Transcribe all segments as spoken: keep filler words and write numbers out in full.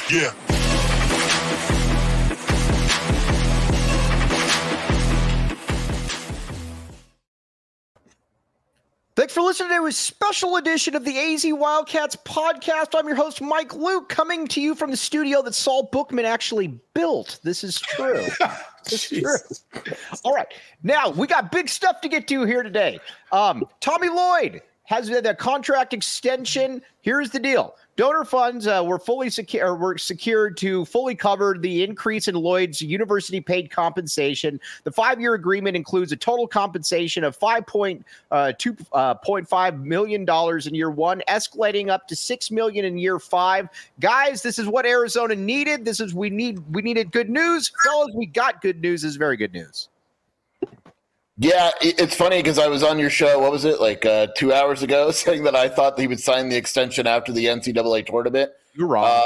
Yeah. Thanks for listening to a special edition of the A Z Wildcats podcast. I'm your host, Mike Luke, coming to you from the studio that Saul Bookman actually built. This is true. This is true. All right. Now, we got big stuff to get to here today. Um, Tommy Lloyd has the contract extension. Here's the deal. Donor funds uh, were fully secure, were secured to fully cover the increase in Lloyd's university-paid compensation. The five-year agreement includes a total compensation of five point two five million dollars in year one, escalating up to six million dollars in year five. Guys, this is what Arizona needed. This is we need. We needed good news, fellas. We got good news. This is very good news. Yeah, it's funny because I was on your show, what was it, like uh, two hours ago, saying that I thought that he would sign the extension after the N C double A tournament. You're wrong. Uh,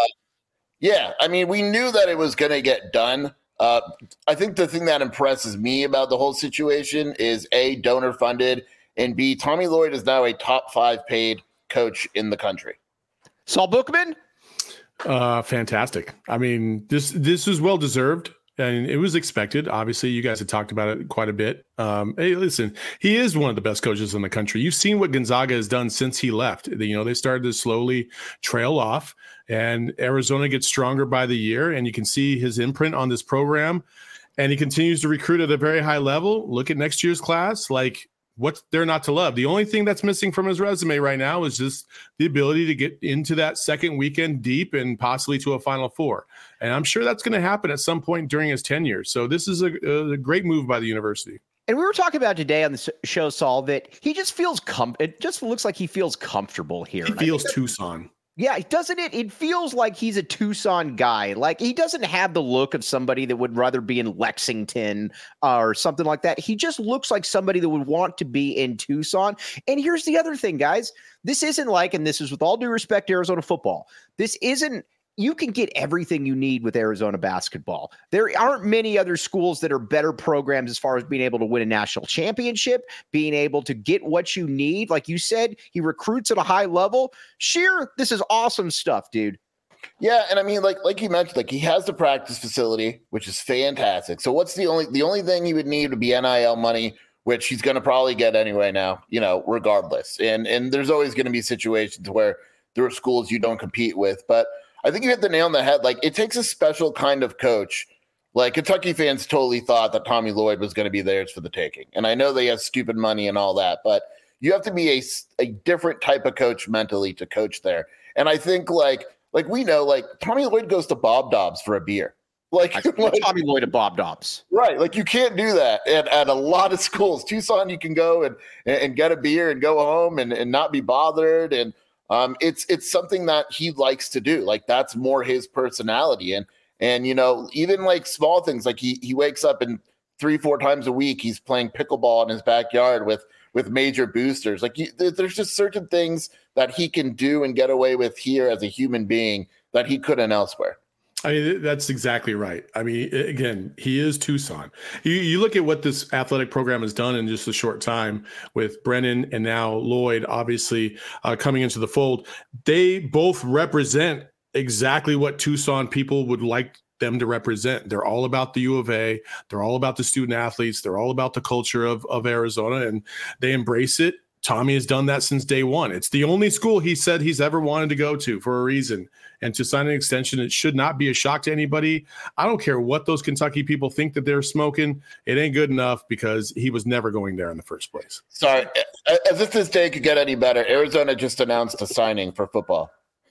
yeah, I mean, we knew that it was going to get done. Uh, I think the thing that impresses me about the whole situation is, A, donor funded, and B, Tommy Lloyd is now a top five paid coach in the country. Saul Bookman? Uh, fantastic. I mean, this this is well deserved. And it was expected. Obviously, you guys had talked about it quite a bit. Um, hey, listen, he is one of the best coaches in the country. You've seen what Gonzaga has done since he left. You know, they started to slowly trail off, and Arizona gets stronger by the year, and you can see his imprint on this program. And he continues to recruit at a very high level. Look at next year's class. Like, what's there not to love? The only thing that's missing from his resume right now is just the ability to get into that second weekend deep and possibly to a Final Four. And I'm sure that's going to happen at some point during his tenure. So this is a, a great move by the university. And we were talking about today on the show, Saul, that he just feels com- it just looks like he feels comfortable here. He feels Tucson. Yeah, doesn't it? It feels like he's a Tucson guy. Like, he doesn't have the look of somebody that would rather be in Lexington uh, or something like that. He just looks like somebody that would want to be in Tucson. And here's the other thing, guys. This isn't like, and this is with all due respect to Arizona football, this isn't, you can get everything you need with Arizona basketball. There aren't many other schools that are better programs as far as being able to win a national championship, being able to get what you need. Like you said, he recruits at a high level. Sheer, this is awesome stuff, dude. Yeah, and I mean, like like you mentioned, like he has the practice facility, which is fantastic. So what's the only the only thing he would need would be N I L money, which he's going to probably get anyway now, you know, regardless. And and there's always going to be situations where there are schools you don't compete with, but I think you hit the nail on the head. Like, it takes a special kind of coach. Like, Kentucky fans totally thought that Tommy Lloyd was going to be theirs for the taking. And I know they have stupid money and all that, but you have to be a, a different type of coach mentally to coach there. And I think, like, like we know, like, Tommy Lloyd goes to Bob Dobbs for a beer. Like, like Tommy Lloyd at Bob Dobbs. Right. Like, you can't do that at, at a lot of schools. Tucson, you can go and, and get a beer and go home and, and not be bothered. And, Um, it's it's something that he likes to do. Like, that's more his personality. And, and you know, even like small things, like he he wakes up and three, four times a week, he's playing pickleball in his backyard with with major boosters. Like, you, there's just certain things that he can do and get away with here as a human being that he couldn't elsewhere. I mean, that's exactly right. I mean, again, he is Tucson. You, you look at what this athletic program has done in just a short time with Brennan and now Lloyd, obviously uh, coming into the fold. They both represent exactly what Tucson people would like them to represent. They're all about the U of A. They're all about the student athletes. They're all about the culture of, of Arizona, and they embrace it. Tommy has done that since day one. It's the only school he said he's ever wanted to go to for a reason. And to sign an extension, it should not be a shock to anybody. I don't care what those Kentucky people think that they're smoking. It ain't good enough because he was never going there in the first place. Sorry, as if this day could get any better, Arizona just announced a signing for football.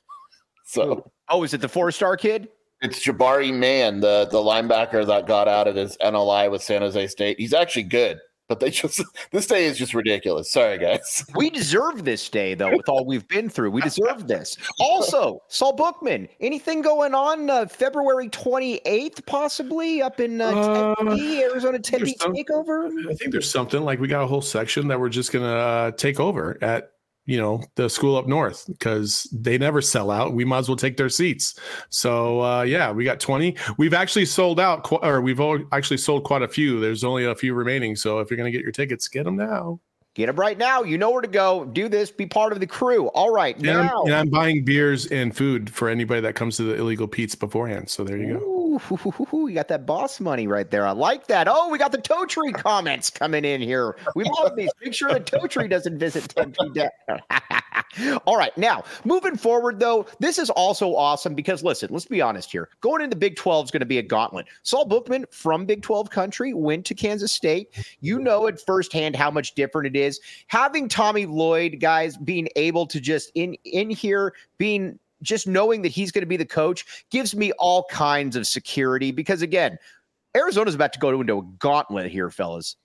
So, oh, is it the four-star kid? It's Jabari Mann, the, the linebacker that got out of his N L I with San Jose State. He's actually good. But they just this day is just ridiculous. Sorry, guys. We deserve this day, though, with all we've been through. We deserve this. Also, Saul Bookman, anything going on uh, February twenty-eighth, possibly up in uh, Tempe, uh, Arizona Tempe takeover? I think there's something like we got a whole section that we're just going to uh, take over at you know, the school up north because they never sell out. We might as well take their seats. So, uh, yeah, we got twenty. We've actually sold out, qu- or we've all actually sold quite a few. There's only a few remaining. So if you're going to get your tickets, get them now. Get them right now. You know where to go. Do this. Be part of the crew. All right. And now. I'm, and I'm buying beers and food for anybody that comes to the Illegal Pete's beforehand. So there you go. Ooh, hoo, hoo, hoo, hoo. You got that boss money right there. I like that. Oh, we got the Toe Tree comments coming in here. We love these. Make sure the Toe Tree doesn't visit Tempe. All right. Now, moving forward, though, this is also awesome because, listen, let's be honest here. Going into Big twelve is going to be a gauntlet. Saul Bookman from Big twelve country went to Kansas State. You know it firsthand how much different it is. Having Tommy Lloyd, guys, being able to just in, in here, being just knowing that he's going to be the coach gives me all kinds of security because, again, Arizona's about to go into a gauntlet here, fellas.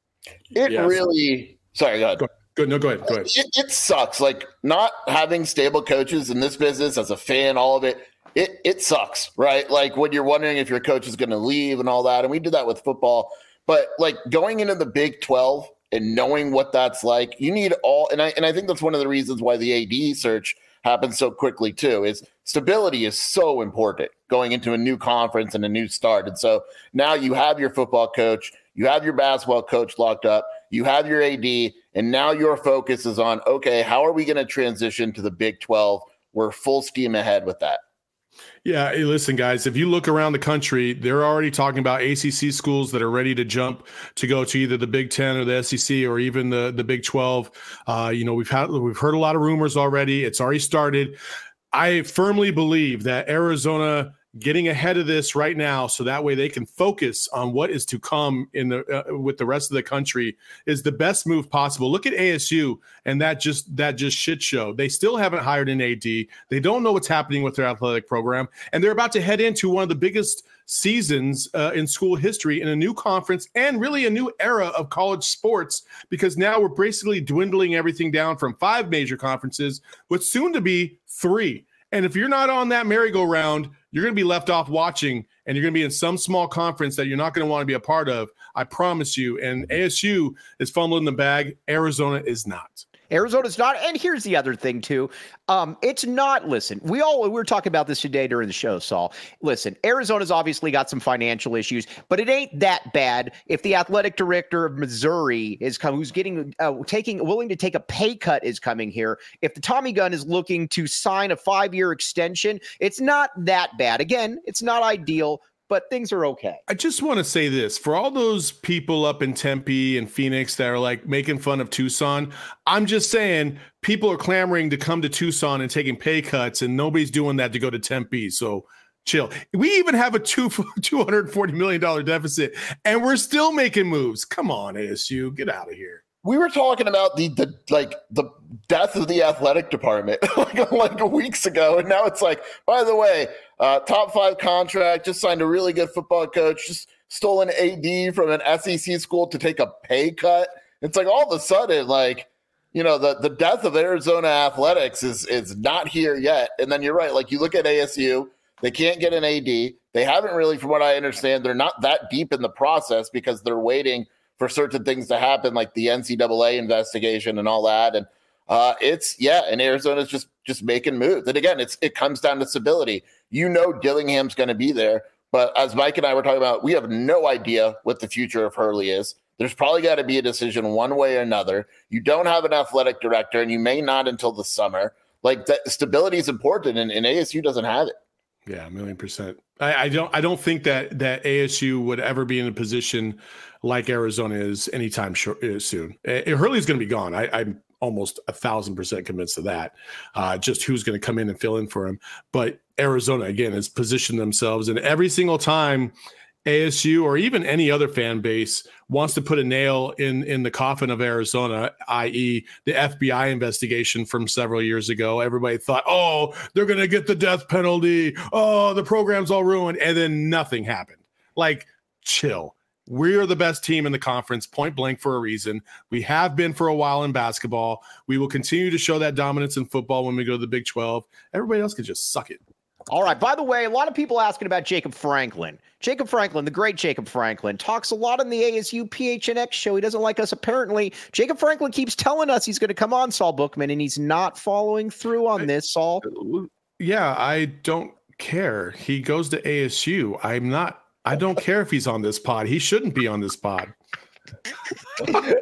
It Yeah. really – sorry, go ahead. Go, go, no, go ahead. Go ahead. It, it sucks. Like, not having stable coaches in this business as a fan, all of it, it it sucks, right? Like, when you're wondering if your coach is going to leave and all that, and we did that with football. But, like, going into the Big twelve and knowing what that's like, you need all – and I and I think that's one of the reasons why the A D search – happens so quickly too, is stability is so important going into a new conference and a new start. And so now you have your football coach, you have your basketball coach locked up, you have your A D, and now your focus is on, okay, how are we going to transition to the Big twelve? We're full steam ahead with that. Yeah, hey, listen, guys, if you look around the country, they're already talking about A C C schools that are ready to jump to go to either the Big Ten or the S E C or even the, the Big twelve. Uh, you know, we've had we've heard a lot of rumors already. It's already started. I firmly believe that Arizona getting ahead of this right now so that way they can focus on what is to come in the uh, with the rest of the country is the best move possible. Look at A S U and that just that just shit show. They still haven't hired an A D. They don't know what's happening with their athletic program, and they're about to head into one of the biggest seasons uh, in school history in a new conference and really a new era of college sports, because now we're basically dwindling everything down from five major conferences with soon to be three. And if you're not on that merry-go-round, you're going to be left off watching, and you're going to be in some small conference that you're not going to want to be a part of. I promise you. And A S U is fumbling the bag. Arizona is not. Arizona's not. And here's the other thing, too. Um, it's not, listen, we all, we were talking about this today during the show, Saul. Listen, Arizona's obviously got some financial issues, but it ain't that bad if the athletic director of Missouri is coming, who's getting, uh, taking, willing to take a pay cut is coming here. If the Tommy Gun is looking to sign a five-year extension, it's not that bad. Again, it's not ideal, but things are okay. I just want to say this for all those people up in Tempe and Phoenix that are like making fun of Tucson. I'm just saying people are clamoring to come to Tucson and taking pay cuts, and nobody's doing that to go to Tempe. So chill. We even have a two, two hundred forty million dollars deficit, and we're still making moves. Come on, A S U, get out of here. We were talking about the the like the death of the athletic department like like weeks ago, and now it's like, by the way, uh, top five contract, just signed a really good football coach, just stole an A D from an S E C school to take a pay cut. It's like all of a sudden, like, you know, the the death of Arizona athletics is is not here yet. And then you're right, like you look at A S U, they can't get an A D. They haven't really, from what I understand, they're not that deep in the process because they're waiting for certain things to happen, like the N C double A investigation and all that. And uh, it's, yeah, and Arizona's just just making moves. And again, it's it comes down to stability. You know Dillingham's going to be there, but as Mike and I were talking about, we have no idea what the future of Hurley is. There's probably got to be a decision one way or another. You don't have an athletic director, and you may not until the summer. Like, that stability is important, and, and A S U doesn't have it. Yeah, a million percent. I, I don't. I don't think that that A S U would ever be in a position like Arizona is anytime short, uh, soon. Uh, Hurley's going to be gone. I, I'm almost a thousand percent convinced of that. Uh, just who's going to come in and fill in for him. But Arizona again has positioned themselves, and every single time A S U or even any other fan base wants to put a nail in in the coffin of Arizona, that is the F B I investigation from several years ago. Everybody thought, oh, they're going to get the death penalty. Oh, the program's all ruined. And then nothing happened. Like, chill. We are the best team in the conference, point blank, for a reason. We have been for a while in basketball. We will continue to show that dominance in football when we go to the Big twelve. Everybody else can just suck it. All right. By the way, a lot of people asking about Jacob Franklin. Jacob Franklin, the great Jacob Franklin, talks a lot on the A S U P H N X show. He doesn't like us, apparently. Jacob Franklin keeps telling us he's going to come on, Saul Bookman, and he's not following through on this, Saul. Yeah, I don't care. He goes to A S U. I'm not. I don't care if he's on this pod. He shouldn't be on this pod.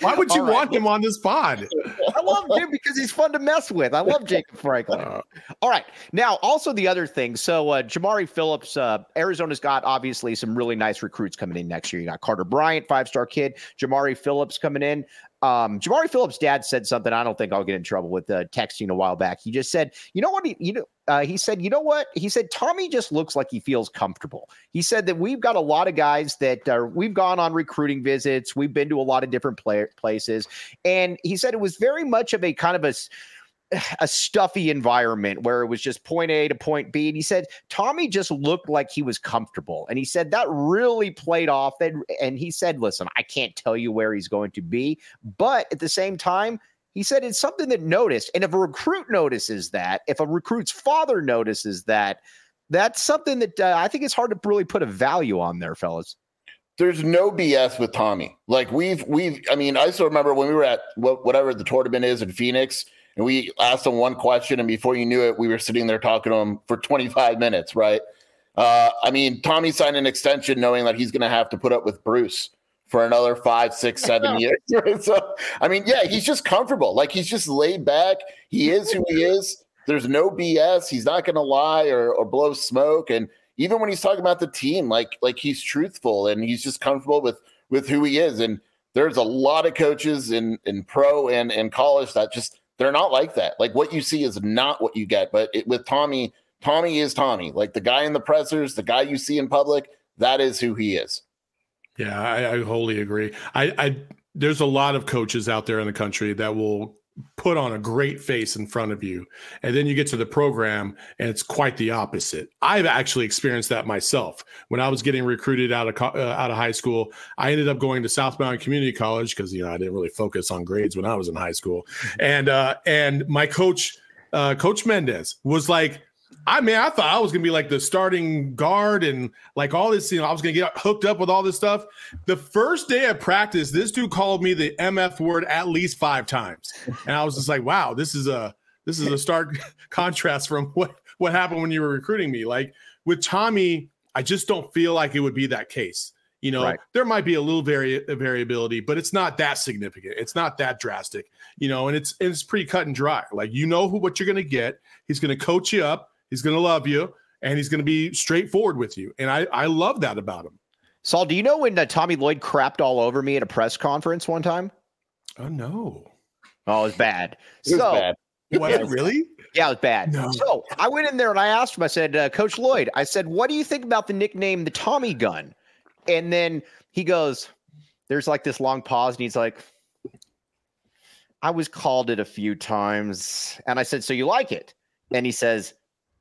Why would you All right. want him on this pod? I love Jim because he's fun to mess with. I love Jacob Franklin. Uh, All right. Now, also the other thing. So uh, Jamari Phillips, uh, Arizona's got obviously some really nice recruits coming in next year. You got Carter Bryant, five-star kid. Jamari Phillips coming in. Um, Jamari Phillips' dad said something I don't think I'll get in trouble with uh, texting a while back. He just said, you know what? He, you know, uh, he said, you know what? He said, Tommy just looks like he feels comfortable. He said that we've got a lot of guys that are, we've gone on recruiting visits. We've been to a lot of different play, places. And he said it was very much of a kind of a, a stuffy environment where it was just point A to point B. And he said, Tommy just looked like he was comfortable. And he said that really played off. And, and he said, listen, I can't tell you where he's going to be, but at the same time, he said it's something that noticed. And if a recruit notices that, if a recruit's father notices that, that's something that uh, I think it's hard to really put a value on there, fellas. There's no B S with Tommy. Like we've, we've, I mean, I still remember when we were at whatever the tournament is in Phoenix, and we asked him one question, and before you knew it, we were sitting there talking to him for twenty-five minutes, right? Uh, I mean, Tommy signed an extension knowing that he's going to have to put up with Bruce for another five, six, seven years. So, I mean, yeah, he's just comfortable. Like, he's just laid back. He is who he is. There's no B S. He's not going to lie or, or blow smoke. And even when he's talking about the team, like, like he's truthful and he's just comfortable with, with who he is. And there's a lot of coaches in, in pro and, and college that just, they're not like that. Like, what you see is not what you get. But it, with Tommy, Tommy is Tommy. Like, the guy in the pressers, the guy you see in public, that is who he is. Yeah, I, I wholly agree. I, I there's a lot of coaches out there in the country that will put on a great face in front of you, and then you get to the program and it's quite the opposite. I've actually experienced that myself. When I was getting recruited out of uh, out of high school, I ended up going to Southbound Community College because, you know, I didn't really focus on grades when I was in high school. And uh, and my coach, uh, Coach Mendez, was like, I mean, I thought I was going to be like the starting guard and like all this, you know, I was going to get hooked up with all this stuff. The first day of practice, this dude called me the M F word at least five times. And I was just like, wow, this is a, this is a stark contrast from what, what happened when you were recruiting me. Like with Tommy, I just don't feel like it would be that case. You know, right. There might be a little vari- variability, but it's not that significant. It's not that drastic, you know, and it's, it's pretty cut and dry. Like, you know who, what you're going to get. He's going to coach you up. He's going to love you, and he's going to be straightforward with you. And I, I love that about him. Saul, do you know when uh, Tommy Lloyd crapped all over me at a press conference one time? Oh, no. Oh, it was bad. It was so, bad. Was it really? Yeah, it was bad. No. So I went in there and I asked him, I said, uh, Coach Lloyd, I said, what do you think about the nickname, the Tommy Gun? And then he goes, there's like this long pause, and he's like, I was called it a few times. And I said, so you like it? And he says,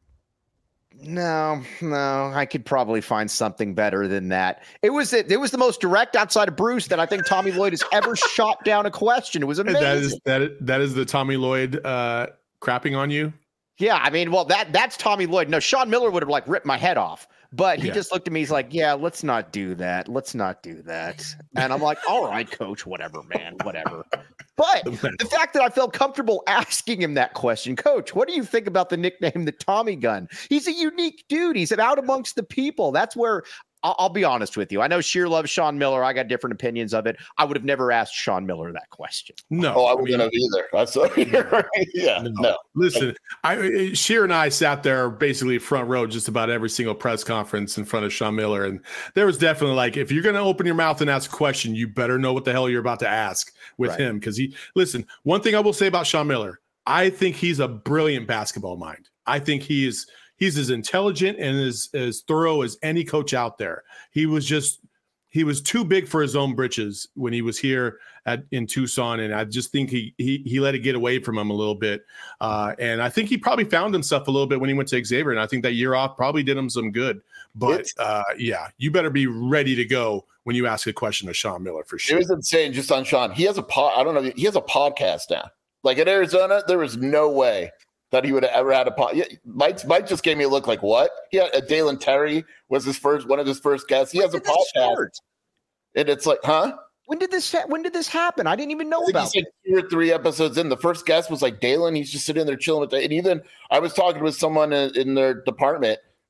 No, no, I could probably find something better than that. It was it, it was the most direct outside of Bruce that I think Tommy Lloyd has ever shot down a question. It was amazing. That is that is, that is the Tommy Lloyd uh, crapping on you. Yeah, I mean, well, that that's Tommy Lloyd. No, Sean Miller would have like ripped my head off, but he yeah. just looked at me. He's like, "Yeah, let's not do that. Let's not do that." And I'm like, "All right, coach, whatever, man, whatever." But the fact that I felt comfortable asking him that question, Coach, what do you think about the nickname, the Tommy Gun? He's a unique dude. He's out amongst the people. That's where I'll, I'll be honest with you. I know Sheer loves Sean Miller. I got different opinions of it. I would have never asked Sean Miller that question. No, oh, I wouldn't have either. That's yeah. No. no. Listen, I Sheer and I sat there basically front row just about every single press conference in front of Sean Miller, and there was definitely like, if you're going to open your mouth and ask a question, you better know what the hell you're about to ask with right. him, because he. Listen, one thing I will say about Sean Miller, I think he's a brilliant basketball mind. I think he is. He's as intelligent and as, as thorough as any coach out there. He was just, he was too big for his own britches when he was here at in Tucson. And I just think he he he let it get away from him a little bit. Uh, and I think he probably found himself a little bit when he went to Xavier. And I think that year off probably did him some good. But uh, yeah, you better be ready to go when you ask a question of Sean Miller for sure. It was insane just on Sean. He has a pod, I don't know, he has a podcast now. Like in Arizona, there was no way that he would have ever had a pod. Yeah, Mike, Mike just gave me a look like, what? Yeah, uh, Dalen Terry was his first, one of his first guests. He when has a podcast. And it's like, huh? When did this ha- when did this happen? I didn't even know about he's like two or three episodes in. The first guest was like Dalen. He's just sitting there chilling with it. And even I was talking with someone in, in their department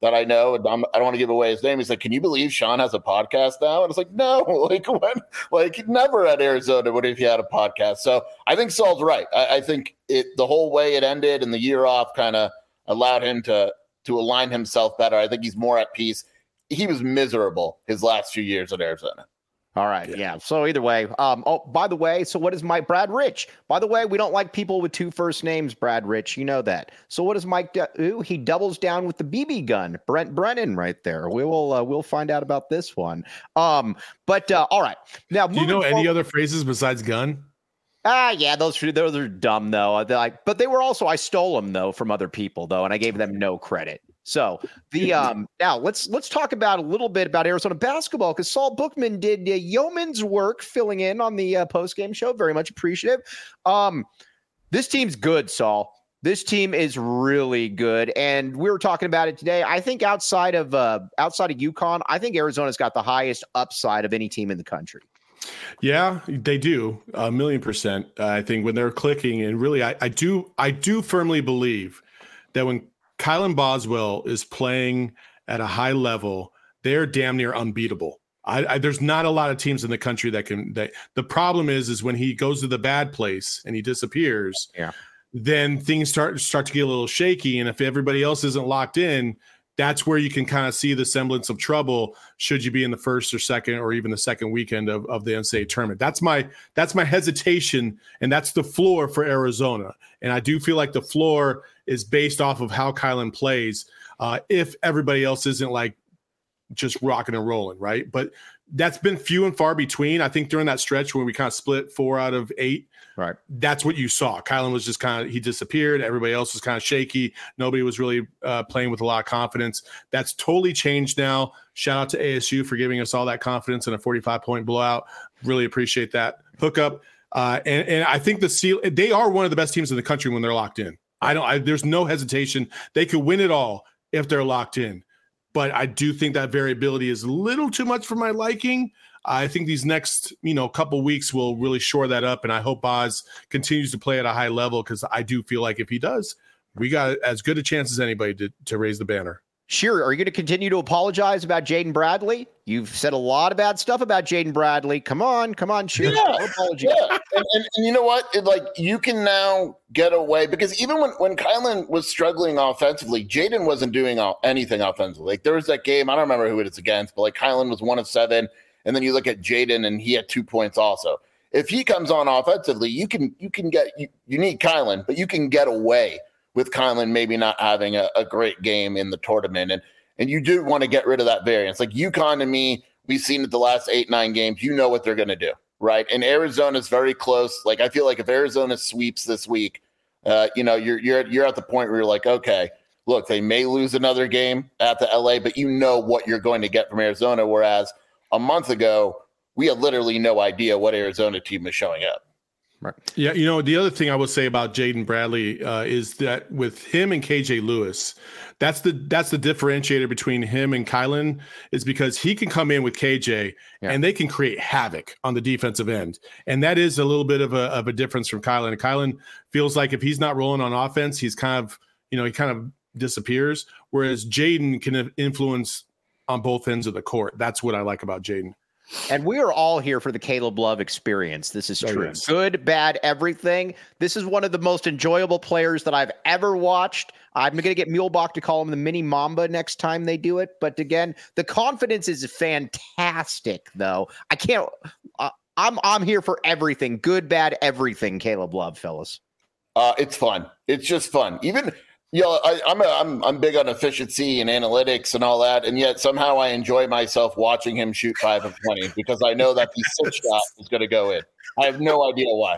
that I know, and I'm, I don't want to give away his name. He's like, "Can you believe Sean has a podcast now?" And it's like, "No, like when, like never at Arizona would if he had a podcast." So I think Saul's right. I, I think it the whole way it ended and the year off kind of allowed him to to align himself better. I think he's more at peace. He was miserable his last few years at Arizona. All right. Yeah. yeah. So either way, um, oh, by the way, so what is Mike Brad Rich? By the way, we don't like people with two first names, Brad Rich. You know that. So what does Mike do? He doubles down with the B B gun. Brent Brennan right there. We will, uh, we'll find out about this one. Um, but uh, all right. Now, do you know any forward, other phrases besides gun? Ah, yeah, those those are dumb though. Like, but they were also I stole them though from other people though, and I gave them no credit. So the um now let's let's talk about a little bit about Arizona basketball because Saul Bookman did uh, yeoman's work filling in on the uh, post game show. Very much appreciative. Um, this team's good, Saul. This team is really good, and we were talking about it today. I think outside of uh, outside of UConn, I think Arizona's got the highest upside of any team in the country. Yeah, they do a million percent. Uh, I think when they're clicking, and really, I, I do I do firmly believe that when Kylan Boswell is playing at a high level, they're damn near unbeatable. I, I, there's not a lot of teams in the country that can. That, the problem is, is when he goes to the bad place and he disappears. Yeah. Then things start start to get a little shaky, and if everybody else isn't locked in, that's where you can kind of see the semblance of trouble. Should you be in the first or second, or even the second weekend of, of the N C double A tournament? That's my that's my hesitation, and that's the floor for Arizona. And I do feel like the floor is based off of how Kylan plays. Uh, if everybody else isn't like just rocking and rolling, right? But that's been few and far between. I think during that stretch when we kind of split four out of eight, right? That's what you saw. Kylan was just kind of, he disappeared. Everybody else was kind of shaky. Nobody was really uh, playing with a lot of confidence. That's totally changed now. Shout out to A S U for giving us all that confidence in a forty-five point blowout. Really appreciate that hookup. Uh, and, and I think the seal, they are one of the best teams in the country when they're locked in. I don't, I, there's no hesitation. They could win it all if they're locked in. But I do think that variability is a little too much for my liking. I think these next, you know, couple weeks will really shore that up, and I hope Oz continues to play at a high level because I do feel like if he does, we got as good a chance as anybody to, to raise the banner. Sure. Are you going to continue to apologize about Jaden Bradley? You've said a lot of bad stuff about Jaden Bradley. Come on, come on, sure. Yeah, yeah. And, and, and you know what? It, like you can now get away because even when when Kylan was struggling offensively, Jaden wasn't doing anything offensively. Like there was that game, I don't remember who it is against, but like Kylan was one of seven, and then you look at Jaden and he had two points also. If he comes on offensively, you can you can get you, you need Kylan, but you can get away with Kylan maybe not having a, a great game in the tournament. And and you do want to get rid of that variance. Like UConn to me, we've seen it the last eight, nine games. You know what they're going to do, right? And Arizona's very close. Like I feel like if Arizona sweeps this week, uh, you know, you're you're you're at the point where you're like, okay, look, they may lose another game at the L A, but you know what you're going to get from Arizona. Whereas a month ago, we had literally no idea what Arizona team was showing up. Right. Yeah, you know, the other thing I would say about Jaden Bradley uh, is that with him and K J Lewis, that's the that's the differentiator between him and Kylan is because he can come in with K J yeah. and they can create havoc on the defensive end. And that is a little bit of a of a difference from Kylan. Kylan feels like if he's not rolling on offense, he's kind of, you know, he kind of disappears, whereas Jaden can influence on both ends of the court. That's what I like about Jaden. And we are all here for the Caleb Love experience. This is true. Oh, yes. Good, bad, everything. This is one of the most enjoyable players that I've ever watched. I'm going to get Mulebach to call him the mini Mamba next time they do it. But again, the confidence is fantastic, though. I can't. Uh, I'm I'm here for everything. Good, bad, everything. Caleb Love, fellas. Uh, it's fun. It's just fun. Even. You know, I, I'm, a, I'm I'm big on efficiency and analytics and all that, and yet somehow I enjoy myself watching him shoot five of twenty because I know that the sixth shot is going to go in. I have no idea why.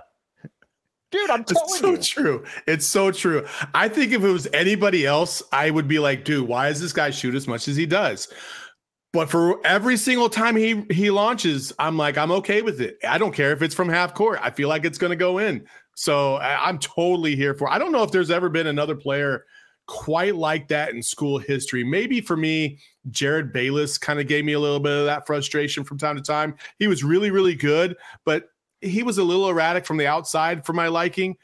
Dude, I'm telling it's so you. It's so true. It's so true. I think if it was anybody else, I would be like, dude, why does this guy shoot as much as he does? But for every single time he he launches, I'm like, I'm okay with it. I don't care if it's from half court. I feel like it's going to go in. So I'm totally here for it. I don't know if there's ever been another player quite like that in school history. Maybe for me, Jared Bayless kind of gave me a little bit of that frustration from time to time. He was really, really good, but he was a little erratic from the outside for my liking.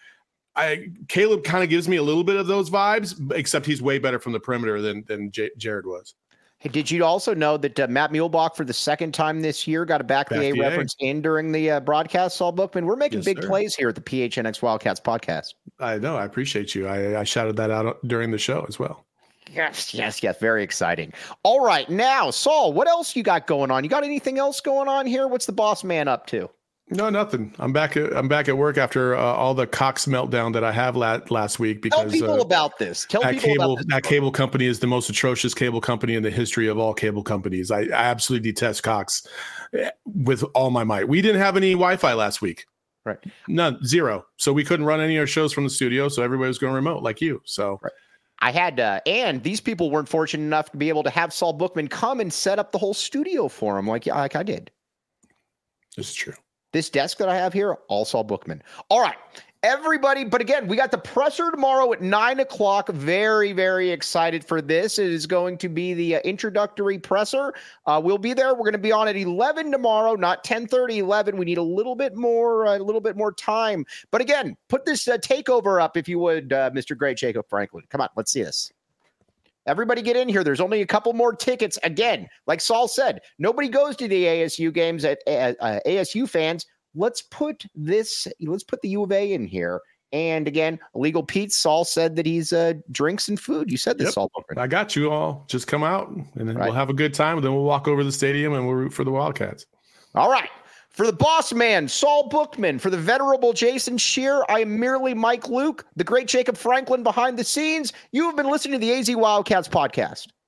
I Caleb kind of gives me a little bit of those vibes, except he's way better from the perimeter than than J- Jared was. Hey, did you also know that uh, Matt Muehlbach, for the second time this year, got a back, back the A reference in during the uh, broadcast, Saul Bookman? We're making yes, big sir. plays here at the P H N X Wildcats podcast. I know. I appreciate you. I, I shouted that out during the show as well. Yes, yes, yes. Very exciting. All right. Now, Saul, what else you got going on? You got anything else going on here? What's the boss man up to? No, nothing. I'm back. At, I'm back at work after uh, all the Cox meltdown that I have la- last week. Because tell people uh, about this. Tell that people cable, about this. That cable company is the most atrocious cable company in the history of all cable companies. I, I absolutely detest Cox with all my might. We didn't have any Wi-Fi last week. Right. None. Zero. So we couldn't run any of our shows from the studio. So everybody was going remote like you. So. Right. I had, uh, and these people weren't fortunate enough to be able to have Saul Bookman come and set up the whole studio for him, like like I did. This is true. This desk that I have here, all Saul Bookman. All right, everybody. But again, we got the presser tomorrow at nine o'clock. Very, very excited for this. It is going to be the uh, introductory presser. Uh, we'll be there. We're going to be on at eleven tomorrow, not ten thirty, eleven. We need a little bit more, uh, a little bit more time. But again, put this uh, takeover up if you would, uh, Mister Great Jacob Franklin. Come on, let's see this. Everybody get in here. There's only a couple more tickets. Again, like Saul said, nobody goes to the A S U games at uh, uh, A S U fans. Let's put this, let's put the U of A in here. And again, Illegal Pete, Saul said that he's uh, drinks and food. You said this, yep. Saul. I got you all. Just come out and then right. we'll have a good time. And then we'll walk over to the stadium and we'll root for the Wildcats. All right. For the boss man, Saul Bookman, for the venerable Jason Scheer, I am merely Mike Luke, the great Jacob Franklin behind the scenes. You have been listening to the A Z Wildcats podcast.